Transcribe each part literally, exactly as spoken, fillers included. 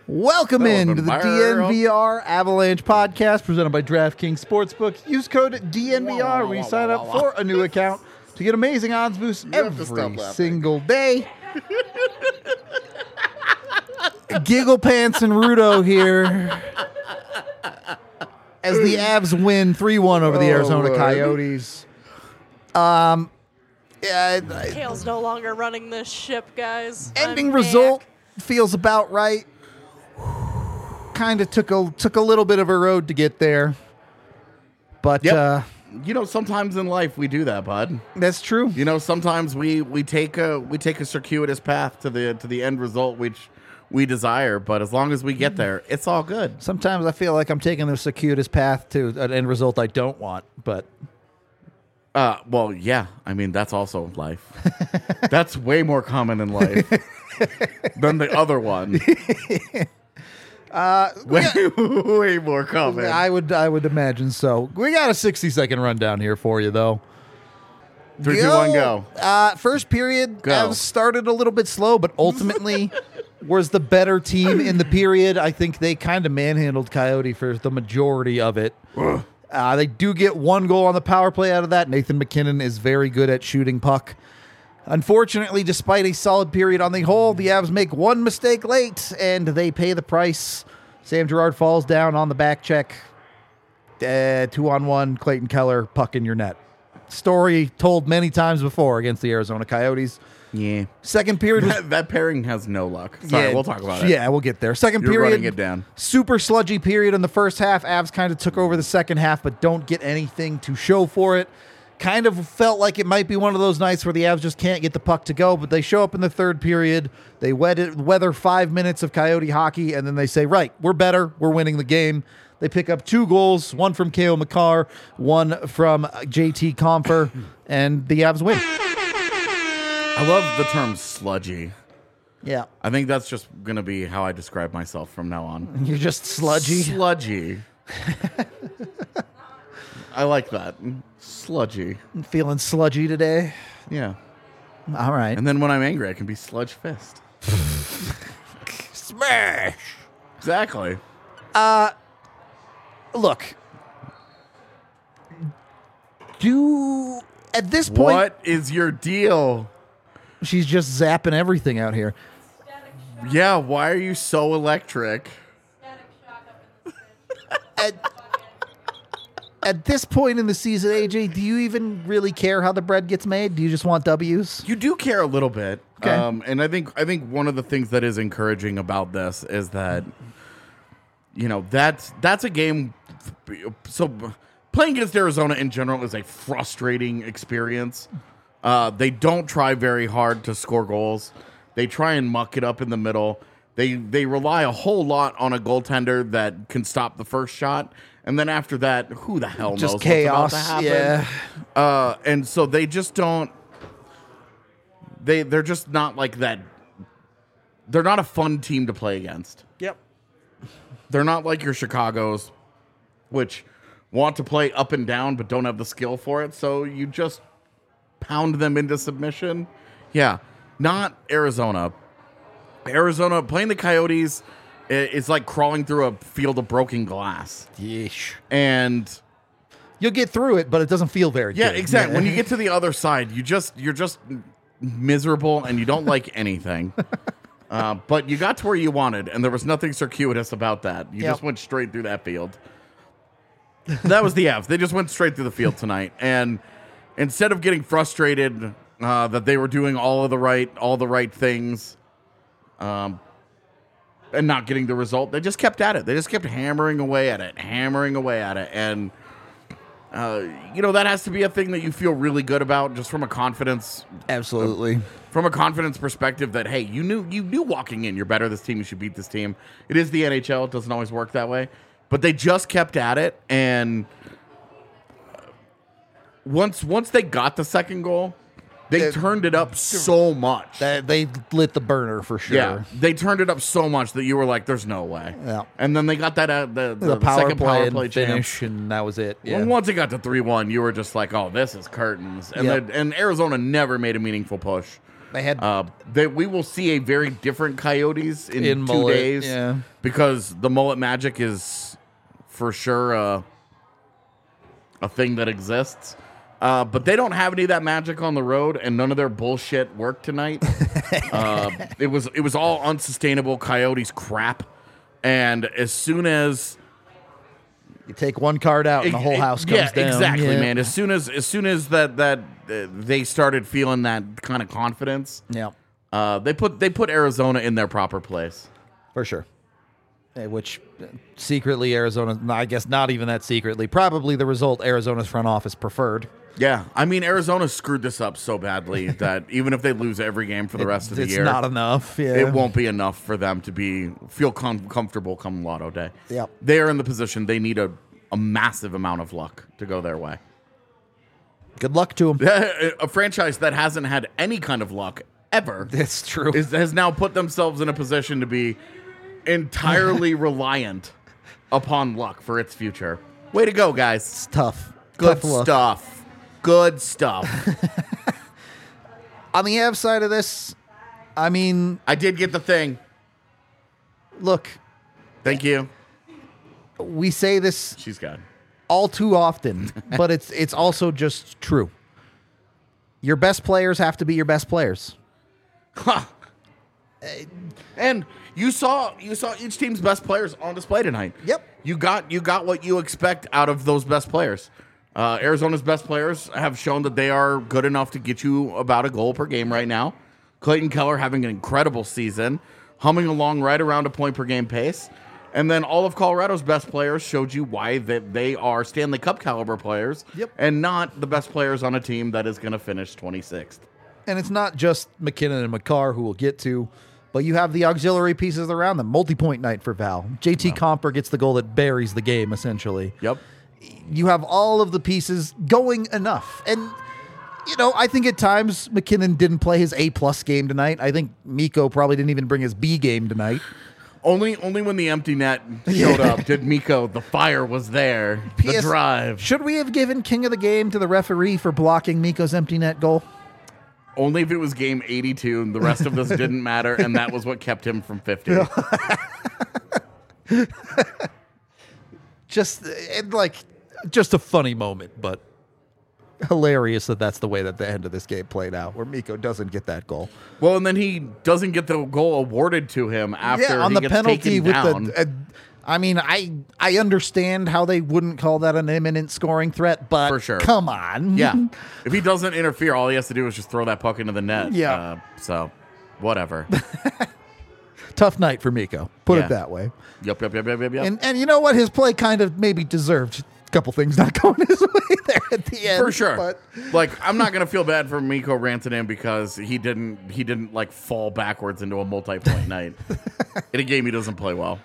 Welcome That into wasn't the viral. D N V R Avalanche podcast presented by DraftKings Sportsbook. Use code D N V R when you sign up for a new account to get amazing odds boosts have to stop every laughing. single day. Giggle Pants and Rudo here as the Avs win three one over the Oh, Arizona Lord. Coyotes. Um, yeah, Kale's no longer running this ship, guys. ending I'm result back. feels about right. Kind of took a took a little bit of a road to get there, but Yep. uh, You know, sometimes in life we do that, bud. that's true. You know, sometimes we we take a we take a circuitous path to the to the end result which we desire, but as long as we get there, it's all good. Sometimes I feel like I'm taking the circuitous path to an end result I don't want, but Uh, well, yeah. I mean, that's also life. That's way more common in life than the other one. uh, Way, way more common. I would I would imagine so. We got a sixty second rundown here for you though. Three, two, one, go. Uh, first period, Go. Avs started a little bit slow, but ultimately was the better team in the period. I think they kind of manhandled Coyote for the majority of it. Uh, they do get one goal on the power play out of that. Nathan McKinnon is very good at shooting puck. Unfortunately, despite a solid period on the whole, the Avs make one mistake late, and they pay the price. Sam Girard falls down on the back check. Uh, two on one, Clayton Keller, puck in your net. Story told many times before against the Arizona Coyotes. Yeah. Second period was That, that pairing has no luck. Sorry, yeah, we'll talk about it. Yeah, we'll get there. Second You're period, running it down. super sludgy period in the first half. Avs kind of took over the second half, but don't get anything to show for it. Kind of felt like it might be one of those nights where the Avs just can't get the puck to go, but they show up in the third period. They wed- weather five minutes of Coyote hockey, and then they say, right, we're better. We're winning the game. They pick up two goals, one from K O McCarr, one from J T Compher, and the Avs win. I love the term sludgy. Yeah. I think that's just going to be how I describe myself from now on. You're just sludgy. Sludgy. I like that. Sludgy. Feeling sludgy today. Yeah. All right. And then when I'm angry, I can be sludge fist. Smash. Exactly. Look, do at this point, What is your deal? she's just zapping everything out here. Yeah, why are you so electric? At, at this point in the season, A J, do you even really care how the bread gets made? Do you just want W's? You do care a little bit. Okay. Um, and I think I think one of the things that is encouraging about this is that you know, that's that's a game so playing against Arizona in general is a frustrating experience. Uh, they don't try very hard to score goals. They try and muck it up in the middle. They they rely a whole lot on a goaltender that can stop the first shot, and then after that, who the hell knows Just chaos. what's about to Yeah. happen? Uh, and so they just don't. They they're just not like that. They're not a fun team to play against. Yep. They're not like your Chicago's, which want to play up and down but don't have the skill for it. So you just pound them into submission. Yeah, not Arizona. Arizona playing the Coyotes i- is like crawling through a field of broken glass. Yeesh. And You'll get through it, but it doesn't feel very yeah, good. exactly. When you get to the other side, you just you're just miserable and you don't like anything. Uh, but you got to where you wanted, and there was nothing circuitous about that. You Yep. just went straight through that field. That was the Avs. They just went straight through the field tonight, and instead of getting frustrated uh, that they were doing all of the right, all the right things, um, and not getting the result, they just kept at it. They just kept hammering away at it, hammering away at it, and uh, you know that has to be a thing that you feel really good about, just from a confidence Absolutely. from a confidence perspective that, hey, you knew you knew walking in you're better this team, you should beat this team. It is the N H L, it doesn't always work that way. But they just kept at it, and once once they got the second goal, they It- turned it up so much. That, they lit the burner for sure. Yeah, they turned it up so much that you were like, "There's no way." Yeah. And then they got that uh, the, the, The, the power second play power and play chance. finish, and that was it. Yeah. Well, once it got to three one, you were just like, "Oh, this is curtains." And Yep. the, and Arizona never made a meaningful push They had Uh, they, we will see a very different Coyotes in, In two mullet, days. yeah. Because the mullet magic is for sure uh, a thing that exists. Uh, but they don't have any of that magic on the road, and none of their bullshit worked tonight. uh, it was it was all unsustainable Coyotes crap. And as soon as you take one card out and the whole house comes yeah, down. exactly, Yeah. man. As soon as as soon as that that uh, they started feeling that kind of confidence, Yeah, uh, they put they put Arizona in their proper place. for sure. Eh, Which uh, secretly Arizona, I guess not even that secretly, probably the result Arizona's front office preferred. Yeah, I mean Arizona screwed this up so badly that even if they lose every game for the rest of the it's year, not enough. Yeah. it won't be enough for them to be feel com- comfortable come Lotto Day. Yep. They are in the position they need a, a massive amount of luck to go their way. Good luck to them. A franchise that hasn't had any kind of luck ever It's true. is, has now put themselves in a position to be entirely reliant upon luck for its future. Way to go, guys. It's tough. Good Tough luck. stuff. Good stuff. On the Avs side of this, I mean, I did get the thing. look, Thank you. we say this She's got. all too often, but it's it's also just true. Your best players have to be your best players. Huh. And you saw you saw each team's best players on display tonight. Yep. You got you got what you expect out of those best players. Uh, Arizona's best players have shown that they are good enough to get you about a goal per game right now. Clayton Keller having an incredible season, humming along right around a point per game pace. And then all of Colorado's best players showed you why they, they are Stanley Cup caliber players Yep. and not the best players on a team that is going to finish twenty-sixth. And it's not just McKinnon and McCarr who we'll get to, but you have the auxiliary pieces around them. Multi-point night for Val. J T Comper gets the goal that buries the game, essentially. Yep. You have all of the pieces going enough. And, you know, I think at times McKinnon didn't play his A-plus game tonight. I think Mikko probably didn't even bring his B game tonight. Only only when the empty net showed up did Mikko, the fire was there. P The S drive. Should we have given King of the Game to the referee for blocking Mikko's empty net goal? Only if it was game eighty-two and the rest of this didn't matter, and that was what kept him from fifty. Just, it, like, just a funny moment, but hilarious that that's the way that the end of this game played out, where Mikko doesn't get that goal. Well, and then he doesn't get the goal awarded to him after yeah, on he the gets penalty taken with down. the. Uh, I mean, I I understand how they wouldn't call that an imminent scoring threat, but For sure. come on. Yeah. If he doesn't interfere, all he has to do is just throw that puck into the net. Yeah. Uh, so, whatever. Tough night for Mikko. Put Yeah. it that way. Yep, yep, yep, yep, yep, yep. And and you know what? His play kind of maybe deserved a couple things not going his way there at the end. For sure. But Like, I'm not gonna feel bad for Mikko Rantanen because he didn't he didn't like fall backwards into a multi-point night in a game he doesn't play well.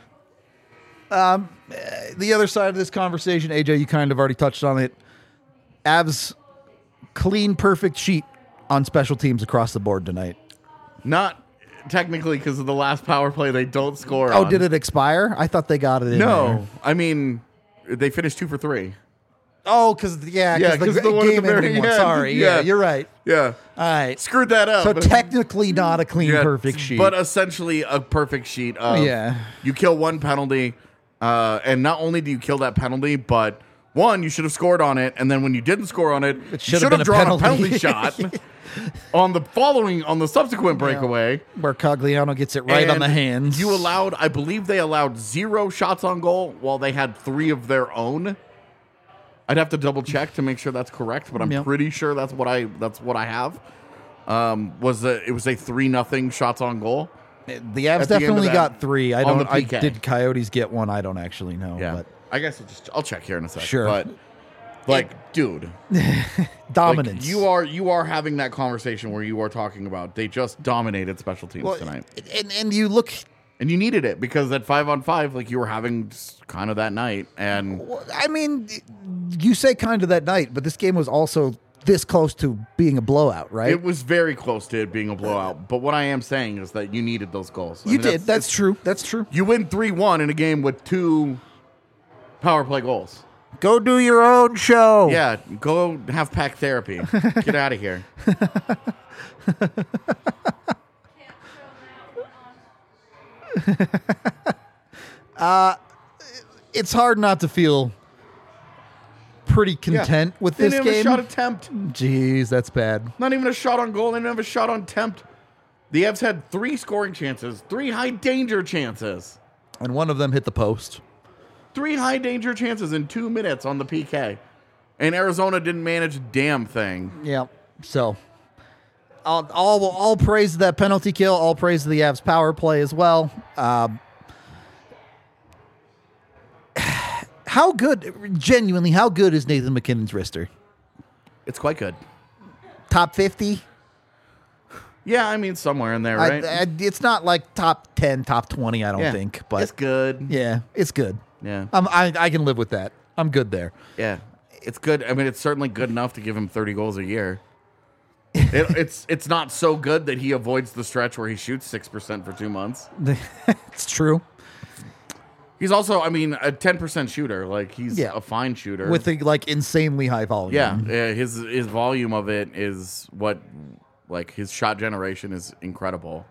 the other side of this conversation, A J, you kind of already touched on it. Avs clean, perfect sheet on special teams across the board tonight. Not technically because of the last power play they don't score. Oh, on. did it expire? I thought they got it in No, there. I mean they finished two for three. Oh, because yeah, Yeah, because the, 'cause the one at the game very ending one. end. Sorry, yeah. Yeah. you're right. Yeah, All right, screwed that up. so technically not a clean, Yeah, perfect sheet. but essentially a perfect sheet. Of Yeah. you kill one penalty, uh, and not only do you kill that penalty, but one you should have scored on it, and then when you didn't score on it, you should should have have been a drawn penalty. a penalty shot on the following on the subsequent breakaway. where Cogliano gets it right on And the hands. You allowed, I believe they allowed zero shots on goal while they had three of their own. I'd have to double check to make sure that's correct, but I'm Yep. pretty sure that's what I that's what I have. Um, was a, it was a three nothing shots on goal. the Avs at the end of definitely that, got three. I on don't. the I P K. did Coyotes get one? I don't actually know. Yeah, but I guess I'll just I'll check here in a second. Sure. But like, dude, like, dominance. you are you are having that conversation where you are talking about they just dominated special teams well, tonight, and and you look. and you needed it because at five on five, like you were having just kind of that night, and Well, I mean, you say kind of that night, but this game was also this close to being a blowout, right? it was very close to it being a blowout. But what I am saying is that you needed those goals. I you mean, did. That's, true. That's true. You win three one in a game with two power play goals. Go do your own show. Yeah, go have pack therapy. Get out of here. uh, it's hard not to feel pretty content with They this didn't have game. a shot attempt. Jeez, that's bad. Not even a shot on goal. They didn't have a shot on attempt. The Avs had three scoring chances, three high danger chances. And one of them hit the post. Three high danger chances in two minutes on the P K. And Arizona didn't manage a damn thing. Yeah. So, all, all, all praise to that penalty kill. All praise to the Avs power play as well. Um, how good, genuinely, how good is Nathan McKinnon's wrister? It's quite good. Top fifty? Yeah, I mean, somewhere in there, right? I, I, it's not like top ten, top twenty, I don't Yeah. think. But It's good. yeah, it's good. Yeah. I'm, I, I can live with that. I'm good there. Yeah. It's good. I mean, it's certainly good enough to give him thirty goals a year. it, it's it's not so good that he avoids the stretch where he shoots six percent for two months. It's true. He's also, I mean, a ten percent shooter. Like, he's Yeah. a fine shooter. With a, like, insanely high volume. yeah, yeah, his his volume of it is what, like, his shot generation is incredible.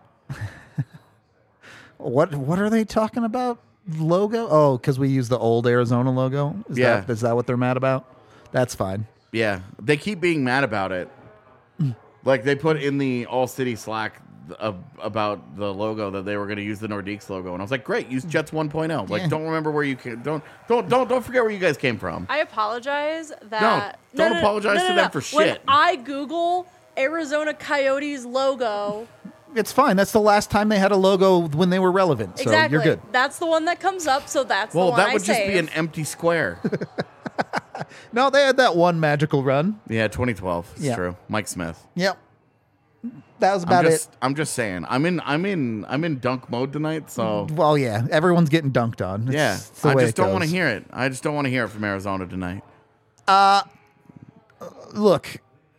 What What are they talking about? Logo? Oh, because we use the old Arizona logo? Is Yeah. That, is that what they're mad about? That's fine. Yeah, they keep being mad about it. Like, they put in the All City Slack uh, about the logo that they were going to use the Nordiques logo, and I was like, "Great, use Jets one point oh." Like, Yeah. don't remember where you came. Don't don't don't don't forget where you guys came from. I apologize that. don't apologize to them for When shit. I Google Arizona Coyotes logo, It's fine. That's the last time they had a logo when they were relevant. So exactly, you're good. that's the one that comes up. So that's Well, the one that I would just save. be an empty square. No, they had that one magical run. Yeah, twenty twelve. It's Yeah. true. Mike Smith. Yep. That was about I'm just, it. I'm just saying. I'm in. I'm in. I'm in dunk mode tonight. So Well, yeah. Everyone's getting dunked on. It's, yeah, it's the I way just it don't want to goes. hear it. I just don't want to hear it from Arizona tonight. Look,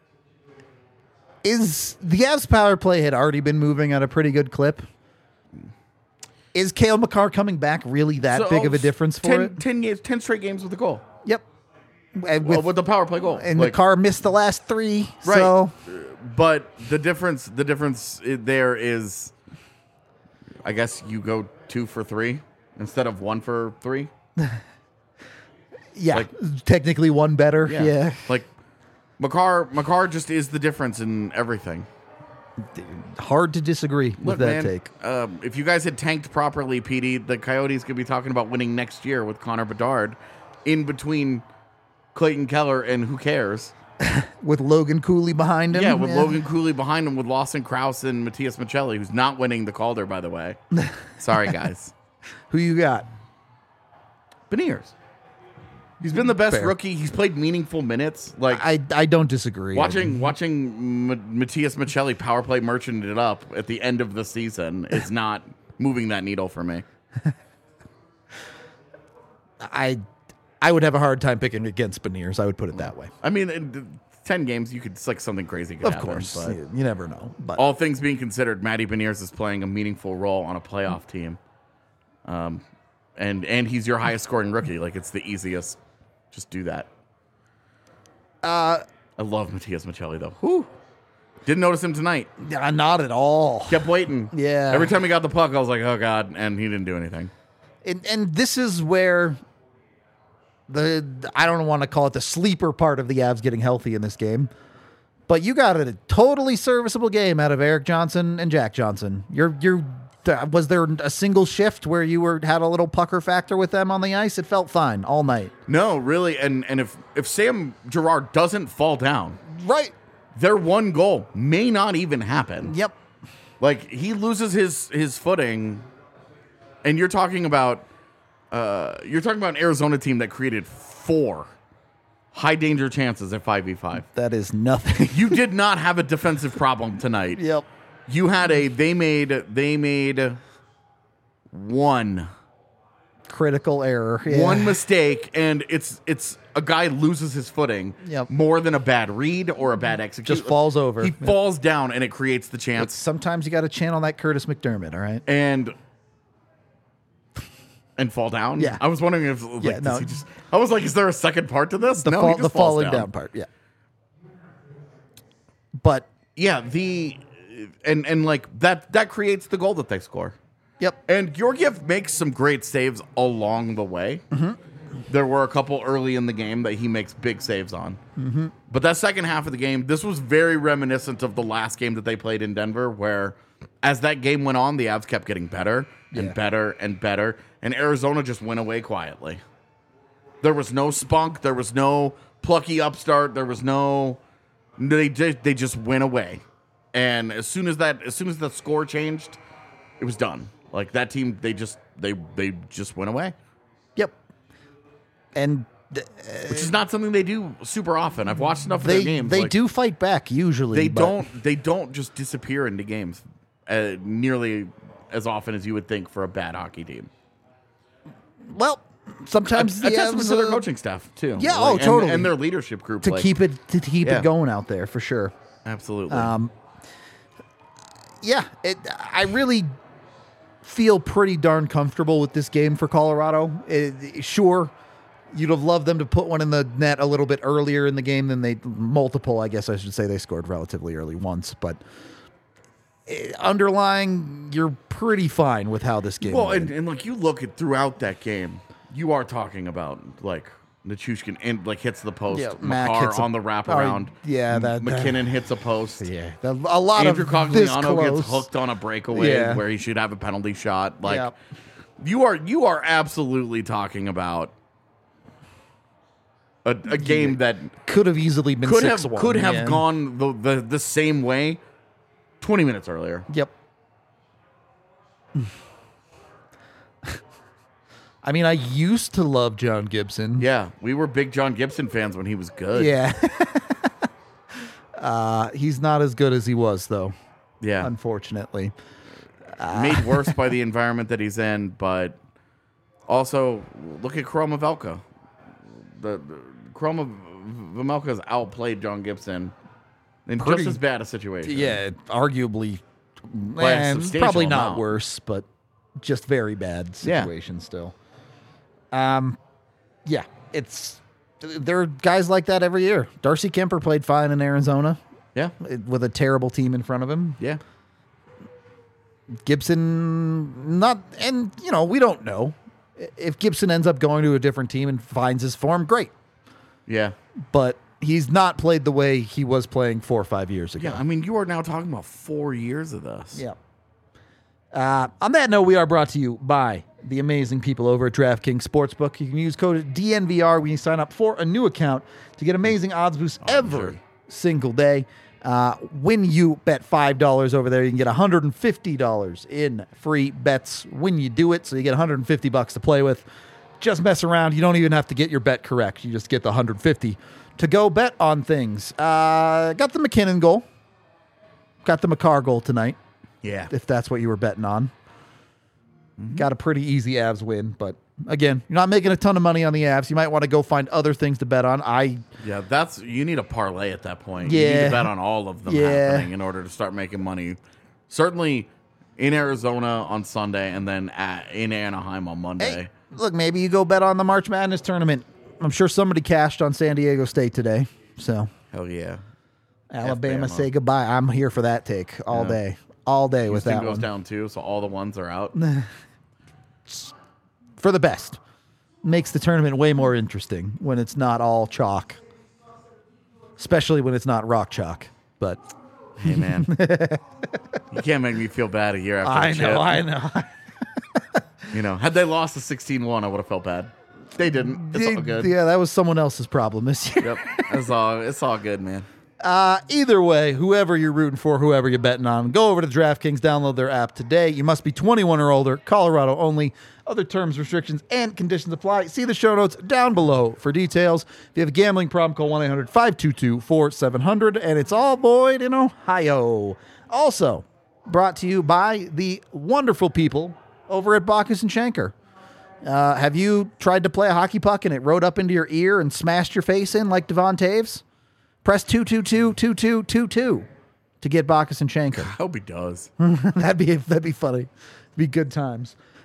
is the Avs power play had already been moving at a pretty good clip? Is Cale Makar coming back really that So, big of a difference for ten, it? ten, games, ten straight games with a goal. Yep. And Well, with, with the power play goal. and Like, Makar missed the last three. Right. So But the difference, the difference i- there is, I guess you go two for three instead of one for three. yeah, Like- technically one better. Yeah. Like, Makar, Makar just is the difference in everything. Hard to disagree with Look, that man, take. um, if you guys had tanked properly, P D, the Coyotes could be talking about winning next year with Connor Bedard in between Clayton Keller and who cares? With Logan Cooley behind him. Yeah, with Logan Cooley behind him, with Lawson Krause and Matthias Michelli, who's not winning the Calder, by the way. Sorry, guys. Who you got? Beniers. He's been the best Fair. rookie. He's played meaningful minutes. Like I, I don't disagree. watching watching M- Matthias Michelli power play merchant it up at the end of the season is not moving that needle for me. I I would have a hard time picking against Beniers. I would put it that way. I mean, in ten games, you could it's like something crazy could Of happen. course, but you, you never know. But all things being considered, Matty Beniers is playing a meaningful role on a playoff team. Um, and and he's your highest scoring rookie. Like it's the easiest. Just do that. uh, I love Matthias Michelli though. Whew. Didn't notice him tonight. yeah, not at all. Kept waiting. Yeah. Every time he got the puck, I was like, oh god, and he didn't do anything. And and this is where the I don't want to call it the sleeper part of the Avs getting healthy in this game, but you got a totally serviceable game out of Eric Johnson and Jack Johnson. You're you're was there a single shift where you were had a little pucker factor with them on the ice? It felt fine all night. No, really, and and if if Sam Girard doesn't fall down, Right. their one goal may not even happen. Yep. Like he loses his his footing, and you're talking about uh, you're talking about an Arizona team that created four high danger chances at five v five. That is nothing. You did not have a defensive problem tonight. Yep. You had a they made they made one Critical error. Yeah. one mistake, and it's it's a guy loses his footing Yep. more than a bad read or a bad execution. Just falls over. He Yep. falls down, and it creates the chance. Sometimes you got to channel that Curtis McDermott. All right. And And fall down? Yeah. I was wondering if like, Yeah, does no. he just I was like, is there a second part to this? The, no, fall, he just the falls falling down. down part, yeah. But, Yeah, the and and like that that creates the goal that they score. yep. And Georgiev makes some great saves along the way. Mm-hmm. There were a couple early in the game that he makes big saves on. Mm-hmm. But that second half of the game, this was very reminiscent of the last game that they played in Denver, where as that game went on, the Avs kept getting better and Yeah. better and better, and Arizona just went away quietly. There was no spunk. There was no plucky upstart. There was no. They just they just went away, and as soon as that as soon as the score changed, it was done. Like that team, they just they they just went away, Yep. And th- which is not something they do super often. I've watched enough of they their games. they like, do fight back usually. They but- don't. They don't just disappear into games uh, nearly as often as you would think for a bad hockey team. Well, sometimes A the testament Avs, to their uh, coaching staff too. Yeah, Like, oh, and- totally. and their leadership group to like, keep it to keep Yeah. it going out there for sure. absolutely. Um, yeah, it, I really feel pretty darn comfortable with this game for Colorado. It, sure, you'd have loved them to put one in the net a little bit earlier in the game than they multiple. I guess I should say they scored relatively early once, but eh, underlying, you're pretty fine with how this game. Well, went. and, and like you look at throughout that game, you are talking about like Nichushkin and like hits the post, Yeah, Mac Makar hits a- on the wraparound. Oh, yeah, that- McKinnon hits a post. yeah, the- a lot Andrew of this Cogliano close. gets hooked on a breakaway Yeah. where he should have a penalty shot. Like Yeah. you are, you are absolutely talking about a, a game that Could have easily been could six have one, could have yeah. gone the, the the same way twenty minutes earlier. Yep. I mean, I used to love John Gibson. Yeah, we were big John Gibson fans when he was good. Yeah. uh, he's not as good as he was, though, yeah. unfortunately. Made worse by the environment that he's in, but also look at Chroma Velka. The, the Chroma Velka has outplayed John Gibson in Pretty- just as bad a situation. Yeah, arguably, By a eh, substantial probably not amount. worse, but just very bad Yeah. situation still. Um, yeah, it's there are guys like that every year. Darcy Kemper played fine in Arizona yeah, with a terrible team in front of him. yeah. Gibson, not, and you know, we don't know if Gibson ends up going to a different team and finds his form. Great, Yeah. but he's not played the way he was playing four or five years ago. Yeah, I mean, you are now talking about four years of this. Yeah. Uh, on that note, we are brought to you by the amazing people over at DraftKings Sportsbook. You can use code D N V R when you sign up for a new account to get amazing odds boosts every sure. single day. Uh, when you bet five dollars over there, you can get one hundred fifty dollars in free bets when you do it. So you get one hundred fifty bucks to play with. Just mess around. You don't even have to get your bet correct. You just get the one hundred fifty to go bet on things. Uh, got the McKinnon goal. Got the Makar goal tonight, Yeah. if that's what you were betting on. Mm-hmm. Got a pretty easy Avs win, but again, you're not making a ton of money on the Avs. You might want to go find other things to bet on. I Yeah, that's you need a parlay at that point. You need Yeah. to bet on all of them Yeah. happening in order to start making money. Certainly in Arizona on Sunday and then at, in Anaheim on Monday. hey, look, maybe you go bet on the March Madness tournament. I'm sure somebody cashed on San Diego State today. So Hell yeah. Alabama, F-Bama. say goodbye. I'm here for that take all Yeah. day, all day with Houston that goes one. down too, so all the ones are out. For the best. Makes the tournament way more interesting when it's not all chalk, especially when it's not rock chalk. But Hey man, you can't make me feel bad a year after. I the know, chip. I know. You know, had they lost the sixteen one, I would have felt bad. They didn't. It's all good. Yeah, that was someone else's problem this year. Yep, it's all it's all good, man. Uh, either way, whoever you're rooting for, whoever you're betting on, go over to DraftKings, download their app today. You must be twenty-one or older, Colorado only. Other terms, restrictions, and conditions apply. See the show notes down below for details. If you have a gambling problem, call one eight hundred five two two four seven zero zero, and it's all Boyd in Ohio. Also, brought to you by the wonderful people over at Bacchus and Schenker. Uh, have you tried to play a hockey puck and it rode up into your ear and smashed your face in like Devon Taves? Press two two two two two two two to get Bacchus and Schenker. I hope he does. that'd be that'd be funny. It'd be good times.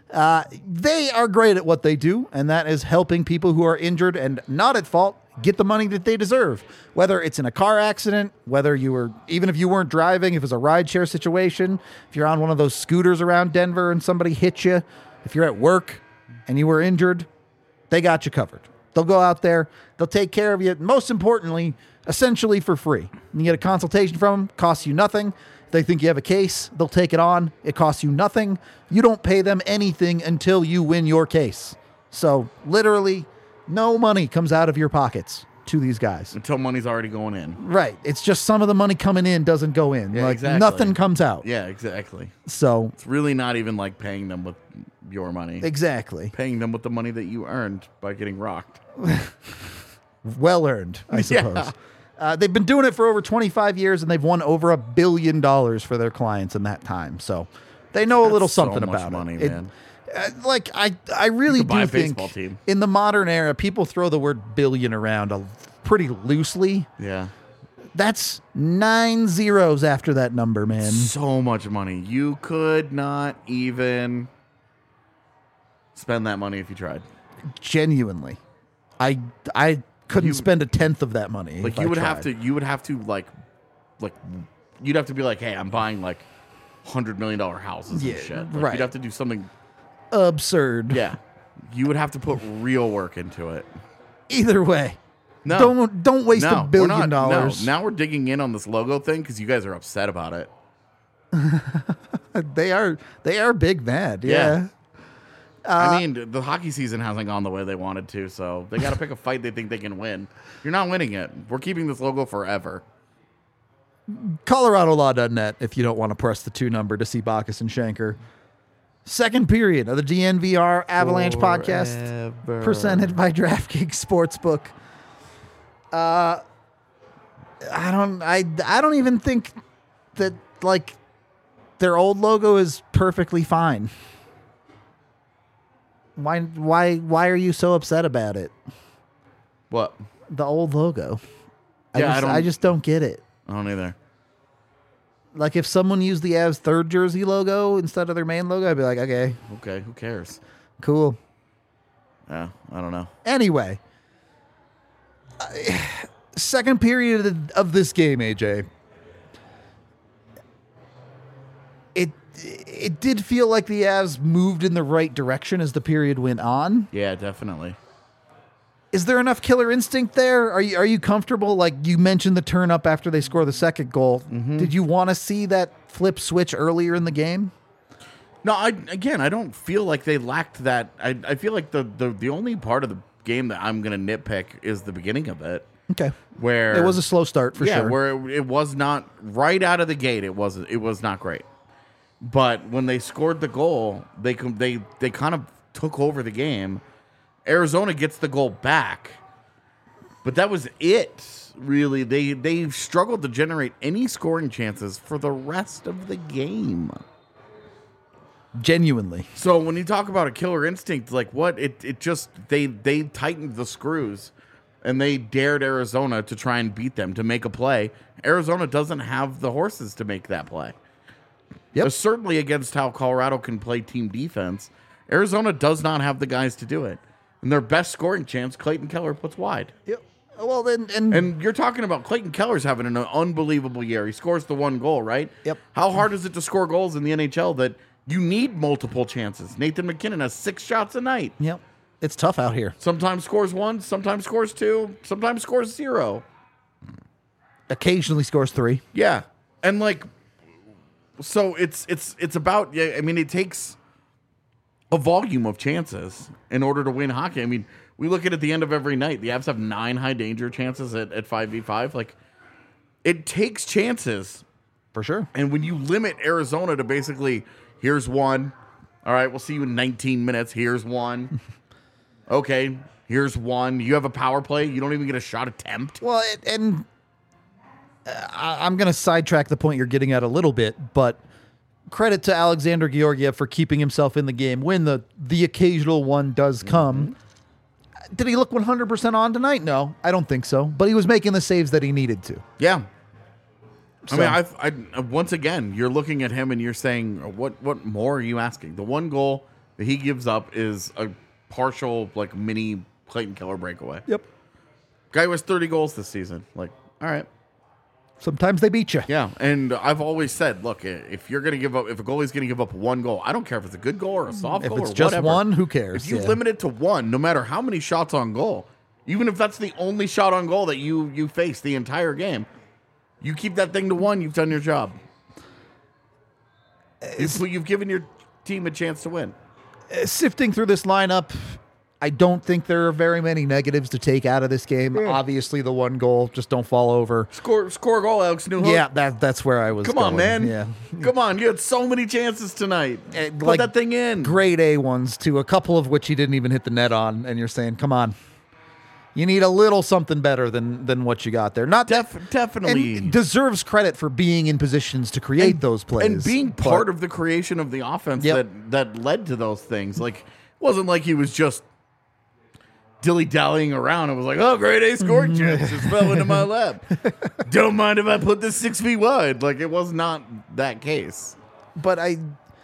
Uh, they are great at what they do, and that is helping people who are injured and not at fault get the money that they deserve. Whether it's in a car accident, whether you were, even if you weren't driving, if it was a rideshare situation, if you're on one of those scooters around Denver and somebody hit you, if you're at work and you were injured, they got you covered. They'll go out there, they'll take care of you, most importantly, essentially for free. You get a consultation from them, costs you nothing. They think you have a case, they'll take it on. It costs you nothing. You don't pay them anything until you win your case. So literally, no money comes out of your pockets to these guys. Until money's already going in. Right. It's just some of the money coming in doesn't go in. Yeah, like exactly. Nothing comes out. Yeah, exactly. So it's really not even like paying them with your money. Exactly. Paying them with the money that you earned by getting rocked. Well earned, I suppose. Yeah. Uh, they've been doing it for over twenty-five years, and they've won over a billion dollars for their clients in that time. So they know That's a little so something much about money, it. It- man. uh, like I, I really You could buy do a think baseball team. in the modern era, people throw the word billion around a, pretty loosely. Yeah. That's nine zeros after that number, man. So much money. You could not even spend that money if you tried. Genuinely, I, I couldn't You- spend a tenth of that money. Like if you I would have tried. to you would have to like like you'd have to be like, hey, I'm buying like hundred million dollar houses Yeah, and shit. Like, right. You'd have to do something. Absurd. Yeah. You would have to put real work into it. Either way, No. don't don't waste no, a we're billion not- dollars. No. Now we're digging in on this logo thing because you guys are upset about it. They are they are big mad. Yeah. Yeah. I mean, the hockey season hasn't gone the way they wanted to, so they got to pick a fight they think they can win. You're not winning it. We're keeping this logo forever. Colorado Law dot net if you don't want to press the two number to see Bacchus and Shanker. Second period of the D N V R Avalanche podcast Forever. presented by DraftKings Sportsbook. Uh, I don't I I don't even think that like their old logo is perfectly fine. Why why why are you so upset about it? What? The old logo. I Yeah, I just, don't- I just don't get it. I don't either. Like if someone used the Avs third jersey logo instead of their main logo, I'd be like, okay, Okay, who cares? cool. Yeah, I don't know. Anyway, I- second period of- of this game, A J. It it did feel like the Avs moved in the right direction as the period went on. Yeah, definitely. Is there enough killer instinct there? Are you are you comfortable? Like you mentioned the turn up after they score the second goal. Mm-hmm. Did you want to see that flip switch earlier in the game? No, I again, I don't feel like they lacked that. I, I feel like the, the the only part of the game that I'm gonna nitpick is the beginning of it, Okay. where It was a slow start for yeah, sure. where it, it was not right out of the gate. It was it was not great, but when they scored the goal, they com- they they kind of took over the game. Arizona gets the goal back, but that was it. Really, they they struggled to generate any scoring chances for the rest of the game. Genuinely. So when you talk about a killer instinct, like what it it just they they tightened the screws and they dared Arizona to try and beat them to make a play. Arizona doesn't have the horses to make that play. Yep. Uh, certainly against how Colorado can play team defense, Arizona does not have the guys to do it. And their best scoring chance, Clayton Keller puts wide. Yep. Well, then, and, And you're talking about Clayton Keller's having an unbelievable year. He scores the one goal, right? Yep. How hard is it to score goals in the N H L that you need multiple chances? Nathan McKinnon has six shots a night. yep, it's tough out here. Sometimes scores one, sometimes scores two, sometimes scores zero. Occasionally scores three. Yeah. And like so it's it's it's about yeah, I mean it takes a volume of chances in order to win hockey. I mean, we look at it at the end of every night. The Avs have nine high danger chances at, at five v five. Like it takes chances. For sure. And when you limit Arizona to basically, here's one. All right, we'll see you in nineteen minutes. Here's one. Okay, here's one. You have a power play. You don't even get a shot attempt. Well, it, and uh, I- I'm going to sidetrack the point you're getting at a little bit, but credit to Alexander Georgiev for keeping himself in the game when the, the occasional one does come. Did he look one hundred percent on tonight? No, I don't think so. But he was making the saves that he needed to. Yeah. I So- mean, I've, I once again, you're looking at him and you're saying, what what more are you asking? The one goal that he gives up is a partial, like, mini Clayton Keller breakaway. Yep. Guy who has thirty goals this season. Like, all right. Sometimes they beat you. Yeah, and I've always said, look, if you're going to give up, if a goalie's going to give up one goal, I don't care if it's a good goal or a soft If goal it's or just whatever. one, who cares? If you Yeah. limit it to one, no matter how many shots on goal, even if that's the only shot on goal that you you face the entire game, you keep that thing to one, you've done your job. You've, you've given your team a chance to win. Uh, Sifting through this lineup, I don't think there are very many negatives to take out of this game. Obviously, the one goal, just don't fall over. Score score a goal, Alex Newhook. Yeah, that that's where I was Come on, going. man. Yeah. Come on. You had so many chances tonight. Uh, Put like, that thing in. Grade A ones, too, a couple of which he didn't even hit the net on, and you're saying, come on. You need a little something better than than what you got there. Not Def- definitely. and deserves credit for being in positions to create And- those plays. And being but- part of the creation of the offense Yep. that, that led to those things. Like, it wasn't like he was just dilly-dallying around. It was like, oh, grade A score chance just fell into my lap. Don't mind if I put this six feet wide. Like, it was not that case. But I,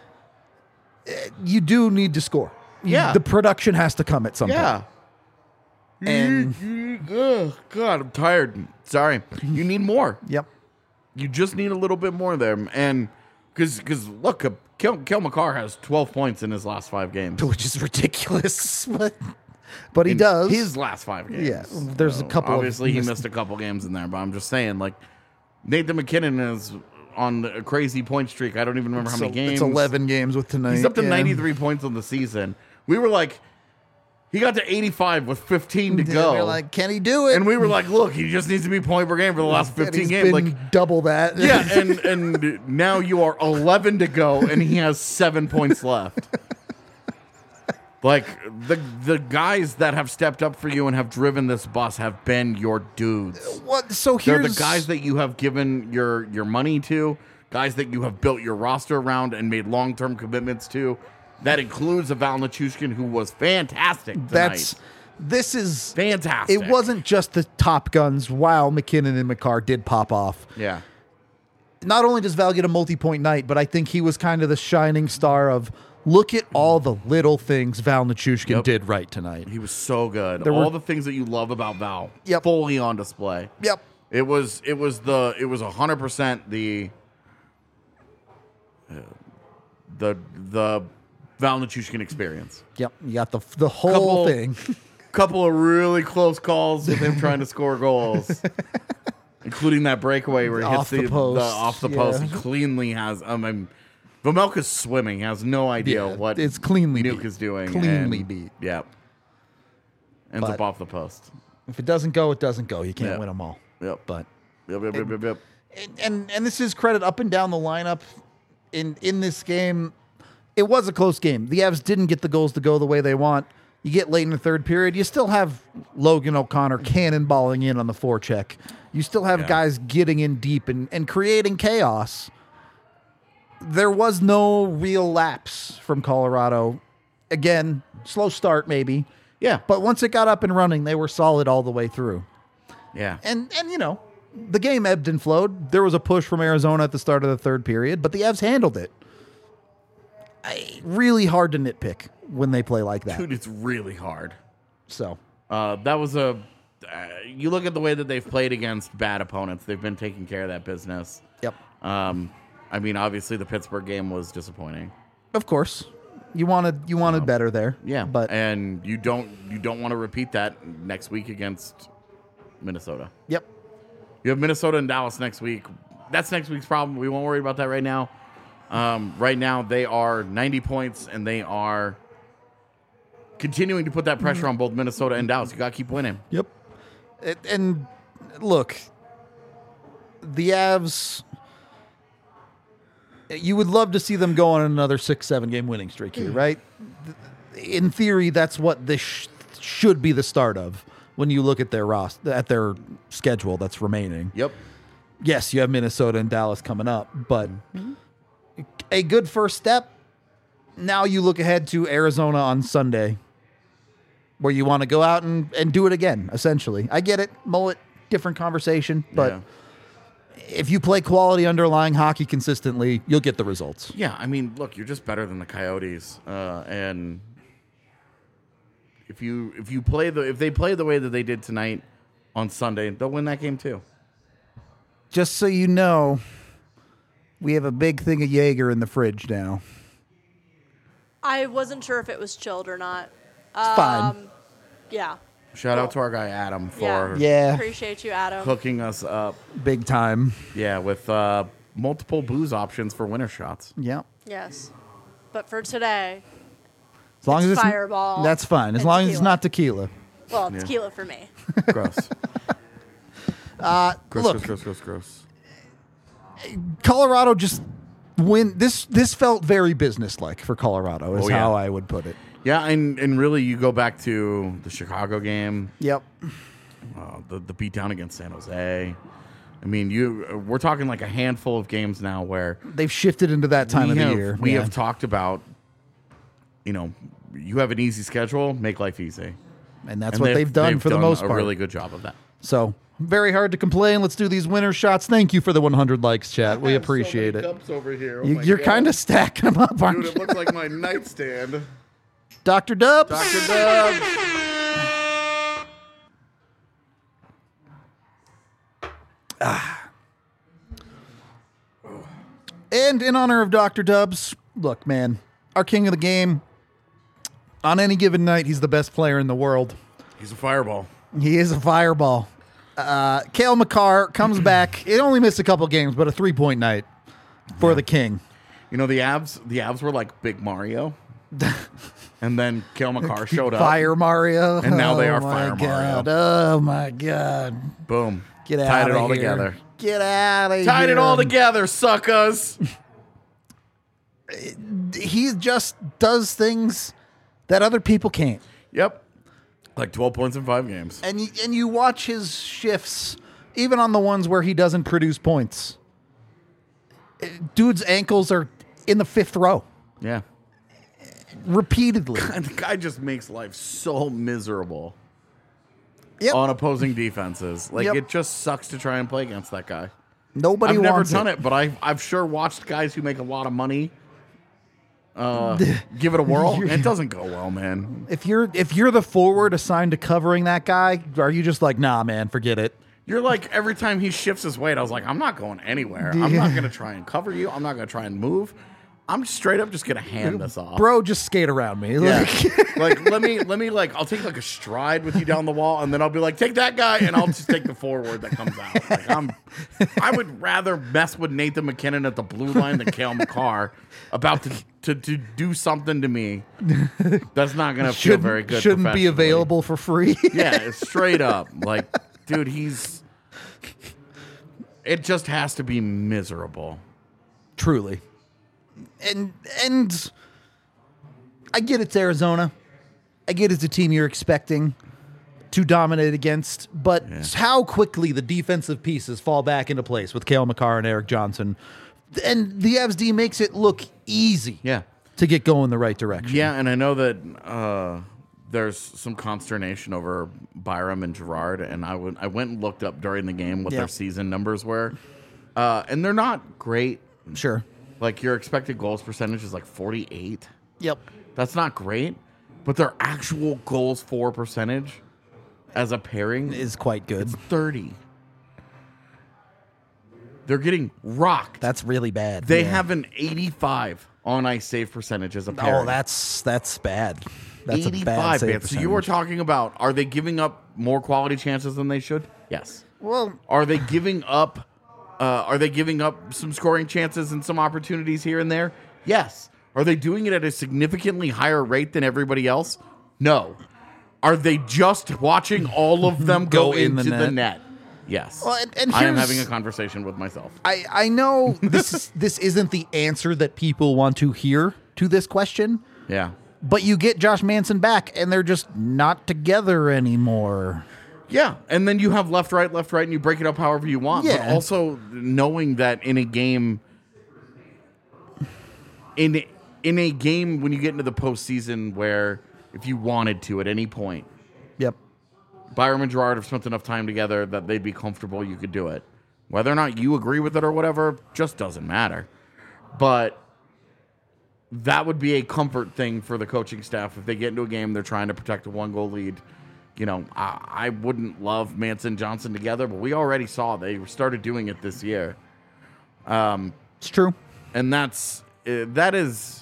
eh, you do need to score. Yeah. The production has to come at some Yeah. point. And Oh, God, I'm tired. Sorry. You need more. yep. You just need a little bit more there. And because, because look, uh, Kel, Kel McCarr has twelve points in his last five games. Which is ridiculous, but but he In does. his last five games. Yeah, there's a couple of Obviously, he missed- missed a couple games in there, but I'm just saying, like, Nathan McKinnon is on a crazy point streak. I don't even remember how So many games. It's eleven games with tonight. He's up to yeah. ninety-three points on the season. We were like, he got to eighty-five with fifteen to Yeah, go. we're like, can he do it? and we were like, look, he just needs to be point per game for the last And fifteen he's games. been Like, double that. yeah, and and now you are eleven to go, and he has seven points left. Like, the the guys that have stepped up for you and have driven this bus have been your dudes. What? So They're here's the guys that you have given your your money to, guys that you have built your roster around and made long term commitments to. That includes a Val Nichushkin, who was fantastic tonight. That's this is fantastic. It wasn't just the top guns. While McKinnon and McCarr did pop off. Yeah. Not only does Val get a multi-point night, but I think he was kind of the shining star of look at all the little things Val Nichushkin Yep. did right tonight. He was so good. There All were- the things that you love about Val, Yep. fully on display. Yep. It was it was the it was a hundred percent the uh, the the Val Nichushkin experience. Yep. You got the the whole Couple- thing. Couple of really close calls with him trying to score goals, including that breakaway where he Off hits the the, post, the off the yeah. post. He cleanly has. Um, I'm, Vejmelka's swimming. He has no idea Yeah, what it's cleanly Nuke beat. is doing. Cleanly and, beat. Yeah. Ends But- up off the post. If it doesn't go, it doesn't go. You can't Yeah. win them all. Yep. But Yep. Yep. Yep. Yep. yep. and, and and this is credit up and down the lineup in in this game. It was a close game. The Avs didn't get the goals to go the way they want. You get late in the third period, you still have Logan O'Connor cannonballing in on the forecheck. You still have Yeah. guys getting in deep and, and creating chaos. There was no real lapse from Colorado. Again, slow start maybe. Yeah. But once it got up and running, they were solid all the way through. Yeah. And and you know, the game ebbed and flowed. There was a push from Arizona at the start of the third period, but the Avs handled it. I, really hard to nitpick when they play like that. Dude, it's really hard. So Uh, that was a. Uh, you look at the way that they've played against bad opponents. They've been taking care of that business. yep, Um, I mean, obviously the Pittsburgh game was disappointing. of course, you wanted you wanted better there. Yeah, but and you don't you don't want to repeat that next week against Minnesota. yep, You have Minnesota and Dallas next week. That's next week's problem. We won't worry about that right now. Um, right now they are ninety points and they are continuing to put that pressure on both Minnesota and Dallas. You got to keep winning. yep. It, and look, the Avs. You would love to see them go on another six, seven game winning streak here, right? In theory, that's what this sh- should be the start of when you look at their roster, at their schedule that's remaining. Yep. Yes, you have Minnesota and Dallas coming up, but a good first step. Now you look ahead to Arizona on Sunday, where you want to go out and, and do it again, essentially. I get it. Mullet, different conversation, but if you play quality underlying hockey consistently, you'll get the results. Yeah, I mean, look, you're just better than the Coyotes, uh, and if you if you play the if they play the way that they did tonight on Sunday, they'll win that game too. Just so you know, we have a big thing of Jaeger in the fridge now. I wasn't sure if it was chilled or not. It's fine. Yeah. Shout out to our guy Adam for Yeah. Yeah, Appreciate you, Adam. hooking us up. big time. Yeah, with uh, multiple booze options for winter shots. Yeah. Yes. But for today, As long It's as it's Fireball that's fine. As and long as it's tequila. not tequila. well, Yeah. tequila for me. Gross. Uh, gross, look, gross, gross, gross, gross. Colorado just win. This this felt very businesslike for Colorado. Is Oh, yeah. how I would put it. Yeah, and, and really, you go back to the Chicago game, Yep. uh, the the beatdown against San Jose. I mean, you we're talking like a handful of games now where They've shifted into that time we of have, the year. We Yeah. have talked about, you know, you have an easy schedule, make life easy. and that's And what they've, done for the most a part. really good job of that. So very hard to complain. Let's do these winner shots. Thank you for the one hundred likes, chat. We I have so appreciate many it. Cups over here. Oh You, my you're God. kind of stacking them up, aren't Dude, it you? looks like my nightstand. Doctor Dubs. Doctor Dubs. And in honor of Doctor Dubs, look, man, our king of the game. On any given night, he's the best player in the world. He's a fireball. He is a fireball. Uh, Cale Makar comes back. It only missed a couple games, but a three-point night for the king. You know, the Avs, the Avs were like Big Mario. And then Cale Makar showed up. Fire Mario. And now they Oh are my Fire Mario. God. Oh, my God. Boom. Get out Tied of it all here. together. Get out of here. Tied it all together, suckers. He just does things that other people can't. Yep. Like twelve points in five games. And you, and you watch his shifts, even on the ones where he doesn't produce points. Dude's ankles are in the fifth row Yeah. repeatedly. And the guy just makes life so miserable Yep. on opposing defenses. Like, Yep. it just sucks to try and play against that guy. Nobody I've never wants done it, but I've, I've sure watched guys who make a lot of money uh, give it a whirl. And it doesn't go well, man. If you're if you're the forward assigned to covering that guy, are you just like, nah, man, forget it? You're like, every time he shifts his weight, I was like, I'm not going anywhere. I'm not going to try and cover you. I'm not going to try and move. I'm straight up just going to hand this off. Bro, just skate around me. Yeah. Like, like, let me, let me, like, I'll take like a stride with you down the wall, and then I'll be like, take that guy, and I'll just take the forward that comes out. Like, I'm, I would rather mess with Nathan McKinnon at the blue line than Cale Makar about to, to, to do something to me that's not going to feel shouldn't, very good. shouldn't be professionally. available for free. Yeah, it's straight up. Like, dude, he's, it just has to be miserable. Truly. And and I get it's Arizona. I get it's a team you're expecting to dominate against, but Yeah. how quickly the defensive pieces fall back into place with Cale Makar and Eric Johnson. And the Avs D makes it look easy Yeah. to get going the right direction. Yeah, and I know that uh, there's some consternation over Byram and Gerard, and I went I went and looked up during the game what Yeah. their season numbers were, uh, and they're not great. Sure. Like, your expected goals percentage is like forty-eight. Yep. That's not great, but their actual goals for percentage as a pairing is Is quite good. thirty. They're getting rocked. That's really bad. They Yeah. have an eighty-five on ice save percentage as a pairing. Oh, that's that's bad. That's a bad eighty-five, save man. So you were percentage. talking about, are they giving up more quality chances than they should? Yes. Well, Are they giving up? Uh, are they giving up some scoring chances and some opportunities here and there? Yes. Are they doing it at a significantly higher rate than everybody else? No. Are they just watching all of them go, Go in the into the net? net? Yes. Well, and- and I am here's- having a conversation with myself. I, I know this is, this isn't the answer that people want to hear to this question, Yeah. but you get Josh Manson back and they're just not together anymore. Yeah, and then you have left, right, left, right, and you break it up however you want. But Yeah. also knowing that in a game, in in a game when you get into the postseason, where if you wanted to at any point, Yep. Byram and Gerard have spent enough time together that they'd be comfortable. You could do it. Whether or not you agree with it or whatever just doesn't matter. But that would be a comfort thing for the coaching staff if they get into a game, they're trying to protect a one-goal lead. You know, I, I wouldn't love Manson Johnson together, but we already saw they started doing it this year. Um, It's true. and that's uh, that is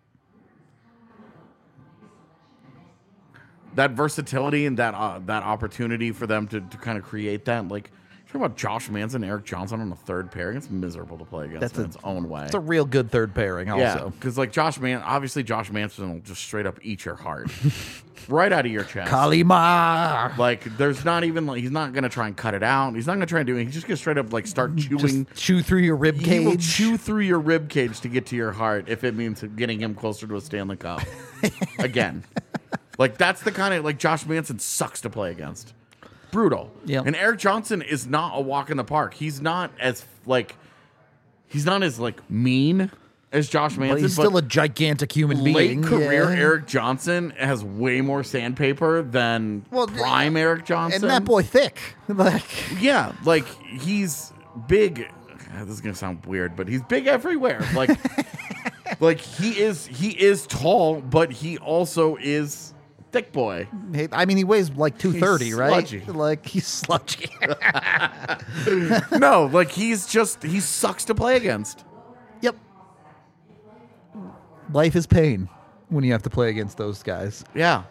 that versatility and that uh, that opportunity for them to, to kind of create that. Like, talk about Josh Manson, Eric Johnson on the third pairing. It's miserable to play against That's in a- its own way. It's a real good third pairing yeah, also. because like Josh Man, obviously Josh Manson will just straight up eat your heart right out of your chest. Kalima. Like, there's not even like he's not gonna try and cut it out. He's not gonna try and do it. He's just gonna straight up like start chewing. Just chew through your rib He will cage. chew through your rib cage to get to your heart if it means getting him closer to a Stanley Cup again. Like, that's the kind of like Josh Manson sucks to play against. Brutal. Yep. And Eric Johnson is not a walk in the park. He's not as like he's not as like mean as Josh Manson. But he's still a gigantic human late being. career yeah. Eric Johnson has way more sandpaper than Well, prime Eric Johnson. And that boy thick. Like, Yeah, like he's big. This is gonna sound weird, but he's big everywhere. Like, like he is. He is tall, but he also is thick boy. hey, I mean, he weighs like two thirty, right? sludgy. Like, he's sludgy. No, like he's just he sucks to play against. Yep. Life is pain when you have to play against those guys. Yeah.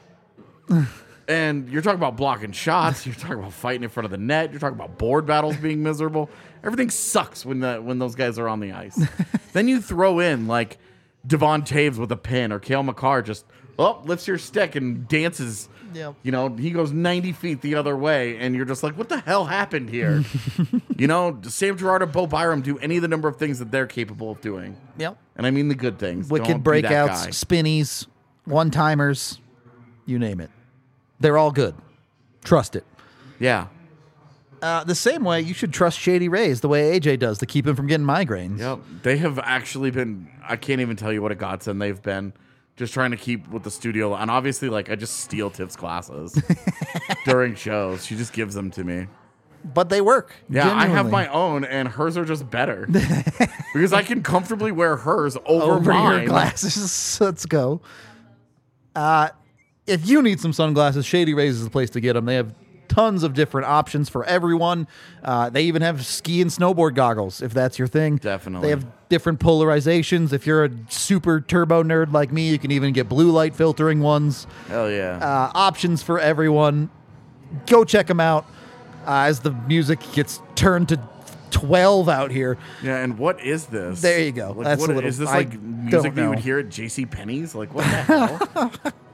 And you're talking about blocking shots. You're talking about fighting in front of the net. You're talking about board battles being miserable. Everything sucks when the when those guys are on the ice. Then you throw in like Devon Taves with a pin or Cale Makar just oh lifts your stick and dances. Yep. You know, he goes ninety feet the other way, and you're just like, what the hell happened here? You know, does Sam Girard or Bo Byram do any of the number of things that they're capable of doing? Yep. And I mean the good things. Wicked Don't be that breakouts, guy. spinnies, one timers, you name it. They're all good. Trust it. Yeah. Uh, the same way you should trust Shady Rays the way A J does to keep him from getting migraines. Yep. They have actually been, I can't even tell you what a godsend they've been. Just trying to keep with the studio. And obviously, like, I just steal Tiff's classes during shows. She just gives them to me. But they work. Yeah, I have genuinely. my own, and hers are just better. Because I can comfortably wear hers over, over mine. your glasses. Let's go. Uh, if you need some sunglasses, Shady Rays is the place to get them. They have tons of different options for everyone. Uh, they even have ski and snowboard goggles, if that's your thing. Definitely. They have different polarizations. If you're a super turbo nerd like me, you can even get blue light filtering ones. Hell yeah. Uh, options for everyone. Go check them out uh, as the music gets turned to twelve out here. yeah, and what is this? There you go. Like, That's what, a little- is this I like don't music that you would know. hear at JCPenney's? Like, what the hell?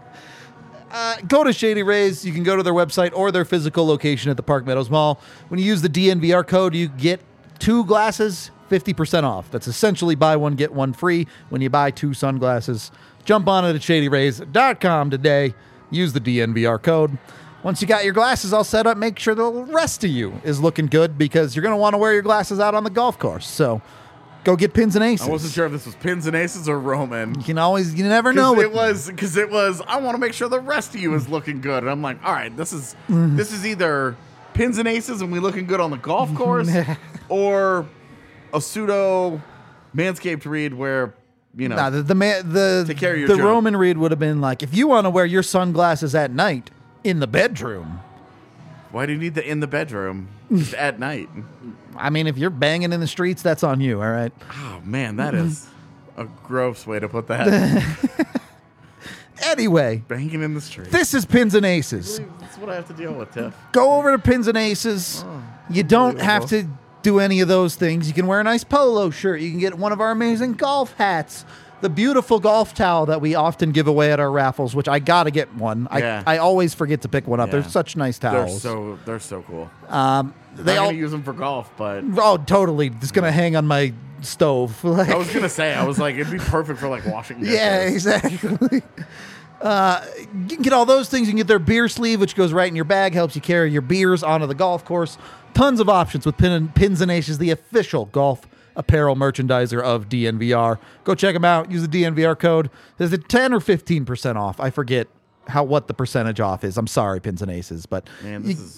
Uh, go to Shady Rays. You can go to their website or their physical location at the Park Meadows Mall. When you use the D N V R code, you get two glasses, fifty percent off. That's essentially buy one, get one free when you buy two sunglasses. Jump on it at shady rays dot com today. Use the D N V R code. Once you got your glasses all set up, make sure the rest of you is looking good because you're going to want to wear your glasses out on the golf course. So go get pins and aces. I wasn't sure if this was Pins and Aces or Roman. You can always, you never know. Because it what- was because it was. I want to make sure the rest of you is looking good, and I'm like, all right, this is Mm-hmm. this is either Pins and Aces and we looking good on the golf course, or a pseudo Manscaped read where you know Nah, the the man, the Take care of your the junk. Roman read would have been like, if you want to wear your sunglasses at night in the bedroom. why do you need the in the bedroom just at night? I mean, if you're banging in the streets, that's on you. All right. Oh man, that is a gross way to put that. Anyway, Banging in the street. this is Pins and Aces. That's what I have to deal with, Tiff. Go over to Pins and Aces. You don't have to do any of those things. You can wear a nice polo shirt. You can get one of our amazing golf hats. The beautiful golf towel that we often give away at our raffles, which I gotta get one. Yeah. I, I always forget to pick one up. Yeah. They're such nice They're towels. so they're so cool. um, They they I'm all gonna use them for golf, but oh totally. It's gonna hang on my stove. Like- I was gonna say I was like it'd be perfect for like washing dishes. yeah, exactly. Uh, you can get all those things. You can get their beer sleeve, which goes right in your bag, helps you carry your beers onto the golf course. Tons of options with Pin and, Pins and Aces, the official golf apparel merchandiser of D N V R. Go check them out. Use the D N V R code. Is it ten or fifteen percent off? I forget how what the percentage off is. I'm sorry, Pins and Aces, but Man, you, this is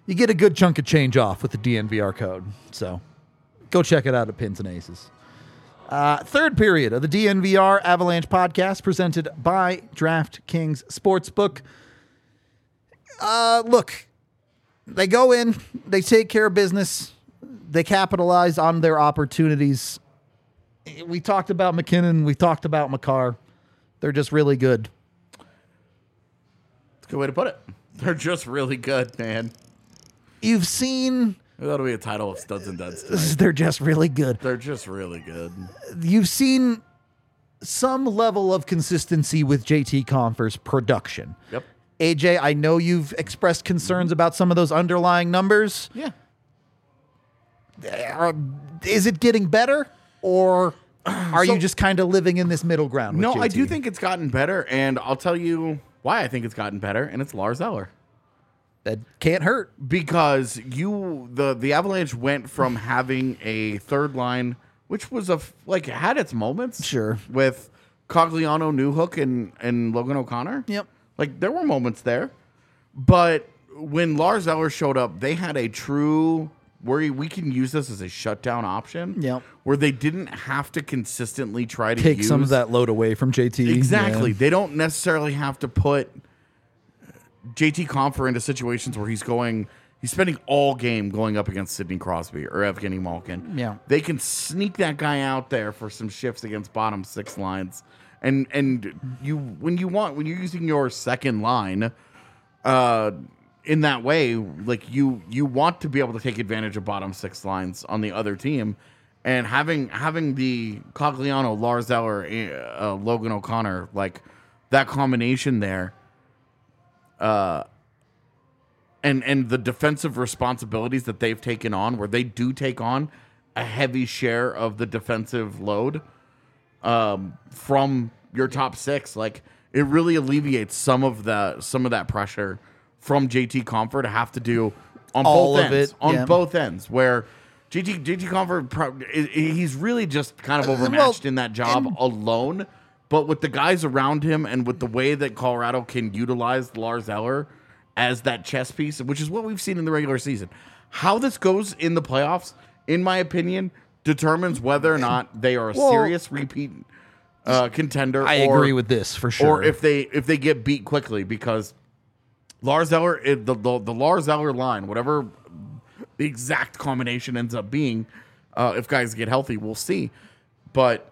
you get a good chunk of change off with the D N V R code. So go check it out at Pins and Aces. Uh, third period of the D N V R Avalanche podcast presented by DraftKings Sportsbook. Uh, look, they go in, they take care of business, they capitalize on their opportunities. We talked about McKinnon, we talked about Makar. They're just really good. That's a good way to put it. They're just really good, man. You've seen... That'll be a title of Studs and Duds tonight. They're just really good. They're just really good. You've seen some level of consistency with J T Compher's production. Yep. A J, I know you've expressed concerns about some of those underlying numbers. Yeah. Uh, is it getting better, or are So- you just kind of living in this middle ground with No, J T? I do think it's gotten better, and I'll tell you why I think it's gotten better, and it's Lars Eller. that can't hurt. Because you the the Avalanche went from having a third line, which was a f- like had its moments, Sure. with Cogliano, Newhook, and and Logan O'Connor. Yep. Like there were moments there, but when Lars Eller showed up, they had a true where we can use this as a shutdown option. Yep. Where they didn't have to consistently try to Take use some of that load away from J T. Exactly. Yeah. They don't necessarily have to put J T Compher into situations where he's going, he's spending all game going up against Sidney Crosby or Evgeny Malkin. Yeah. They can sneak that guy out there for some shifts against bottom six lines. And and you when you want when you're using your second line uh in that way, like you you want to be able to take advantage of bottom six lines on the other team. And having having the Cogliano, Lars Eller, uh, Logan O'Connor, like that combination there, uh, and and the defensive responsibilities that they've taken on, where they do take on a heavy share of the defensive load um, from your top six, like it really alleviates some of the some of that pressure from J T Compher to have to do on All both of ends, it, on yeah. both ends, where J T J T Compher pro- i- i- he's really just kind of overmatched well, in that job and- alone. But with the guys around him and with the way that Colorado can utilize Lars Eller as that chess piece, which is what we've seen in the regular season, how this goes in the playoffs, in my opinion, determines whether or not they are a Well, serious repeat uh, contender. I or, agree with this for sure. Or if they if they get beat quickly, because Lars Eller, it- the, the the Lars Eller line, whatever the exact combination ends up being, uh, if guys get healthy, we'll see. But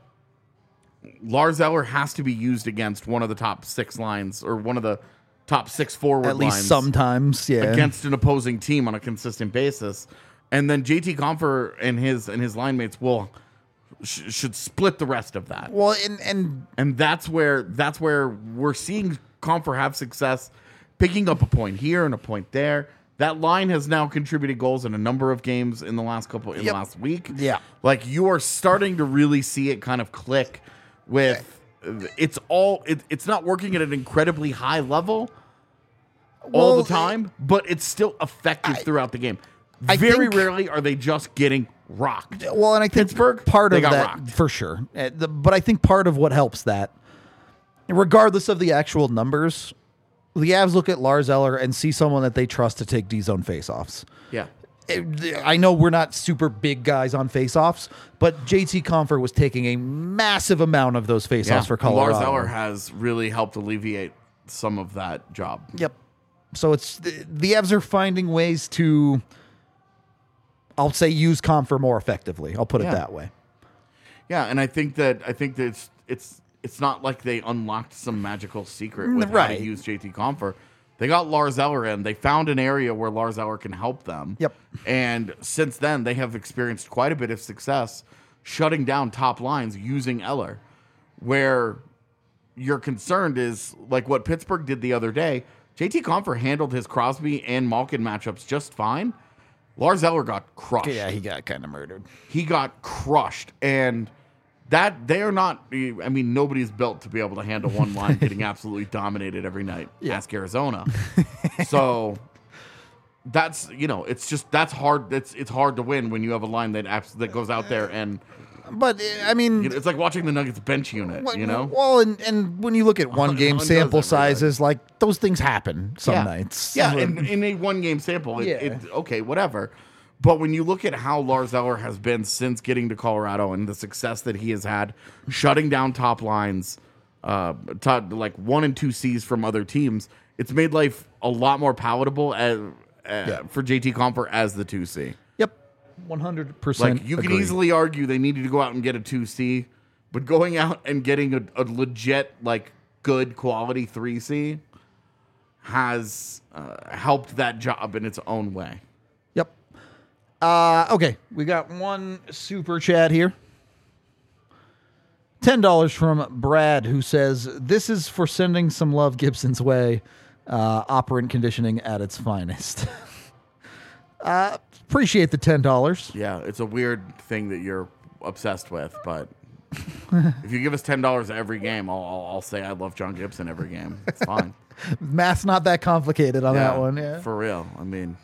Lars Eller has to be used against one of the top six lines or one of the top six forward at least lines sometimes, yeah. against an opposing team on a consistent basis. And then J T Compher and his and his line mates will sh- should split the rest of that. Well, and and And that's where that's where we're seeing Compher have success, picking up a point here and a point there. That line has now contributed goals in a number of games in the last couple in Yep. the last week. Yeah. Like you are starting to really see it kind of click with it's all it, it's not working at an incredibly high level all Well, the time, but it's still effective throughout the game. I Very think- rarely are they just getting rocked. well, and I think Pittsburgh, part they of got that rocked. for sure. Uh, the- But I think part of what helps that, regardless of the actual numbers, the Avs look at Lars Eller and see someone that they trust to take D zone faceoffs. Yeah. It- I know we're not super big guys on faceoffs, but J T Compher was taking a massive amount of those faceoffs for Colorado. Lars Eller has really helped alleviate some of that job. Yep. So it's the, the Avs are finding ways to, I'll say, use Compher more effectively. I'll put it Yeah. that way. Yeah, and I think that I think that it's it's it's not like they unlocked some magical secret with how Right. to use J T Compher. They got Lars Eller in. They found an area where Lars Eller can help them. Yep. And since then, they have experienced quite a bit of success shutting down top lines using Eller. Where you're concerned is like what Pittsburgh did the other day. J T Compher handled his Crosby and Malkin matchups just fine. Lars Eller got crushed. Yeah, he got kind of murdered. He got crushed, and that they are not. I mean, nobody's built to be able to handle one line getting absolutely dominated every night. Yeah. Ask Arizona. So that's you know, it's just that's hard. It's it's hard to win when you have a line that abs- that goes out there and but uh, I mean, You know, it's like watching the Nuggets bench unit. well, You know, well, and, and when you look at one game One does sample every day. sizes, like those things happen some yeah. nights. Yeah, in, in a one game sample, it, Yeah. it, okay, whatever. But when you look at how Lars Eller has been since getting to Colorado and the success that he has had, shutting down top lines, uh, top, like one and two C's from other teams, it's made life a lot more palatable as, uh, Yeah. for J T Compher as the two C. Yep, one hundred percent. Like you can easily argue they needed to go out and get a two C, but going out and getting a, a legit, like good quality three C has uh, helped that job in its own way. Yep. Uh, okay, we got one super chat here. ten dollars from Brad, who says, this is for sending some love Gibson's way. Uh, operant conditioning at its finest. uh, appreciate the ten dollars. Yeah, it's a weird thing that you're obsessed with, but if you give us ten dollars every game, I'll, I'll, I'll say I love John Gibson every game. It's fine. Math's not that complicated on that Yeah, one. Yeah. For real. I mean,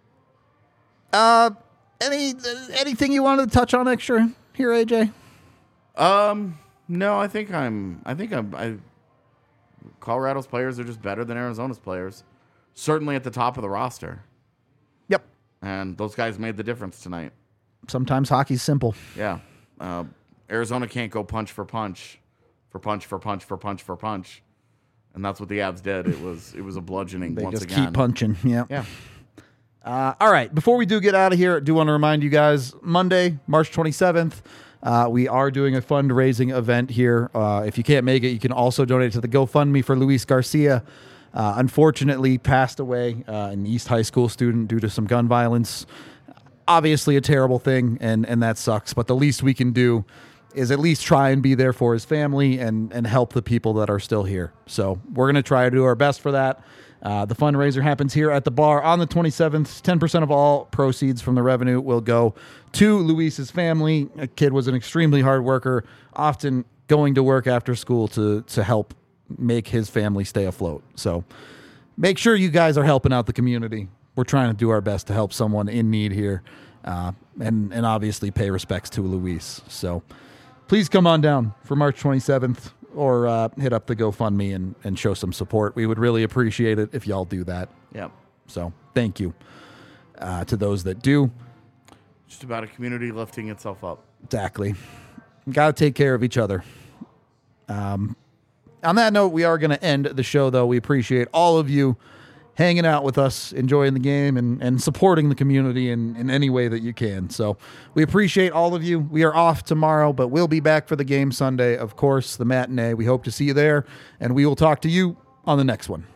Uh, any anything you wanted to touch on extra here, A J? um, no, I think I'm, I think I'm, I, Colorado's players are just better than Arizona's players. Certainly at the top of the roster. Yep. And those guys made the difference tonight. Sometimes hockey's simple. Yeah. Uh, Arizona can't go punch for punch, for punch for punch for punch for punch. And that's what the Avs did. It was it was a bludgeoning They once just again. keep punching. Yeah. Yeah. Uh, all right. Before we do get out of here, I do want to remind you guys, Monday, March twenty-seventh, uh, we are doing a fundraising event here. Uh, if you can't make it, you can also donate to the GoFundMe for Luis Garcia. Uh, unfortunately, passed away, uh, an East High School student due to some gun violence. Obviously a terrible thing, and, and that sucks. But the least we can do is at least try and be there for his family and, and help the people that are still here. So we're going to try to do our best for that. Uh, the fundraiser happens here at the bar on the twenty-seventh. ten percent of all proceeds from the revenue will go to Luis's family. A kid was an extremely hard worker, often going to work after school to, to help make his family stay afloat. So make sure you guys are helping out the community. We're trying to do our best to help someone in need here, uh, and, and obviously pay respects to Luis. So please come on down for March twenty-seventh. Or uh, hit up the GoFundMe and, and show some support. We would really appreciate it if y'all do that. Yeah. So thank you uh, to those that do. Just about a community lifting itself up. Exactly. Got to take care of each other. Um, on that note, we are going to end the show, though. We appreciate all of you hanging out with us, enjoying the game, and, and supporting the community in, in any way that you can. So we appreciate all of you. We are off tomorrow, but we'll be back for the game Sunday, of course, the matinee. We hope to see you there, and we will talk to you on the next one.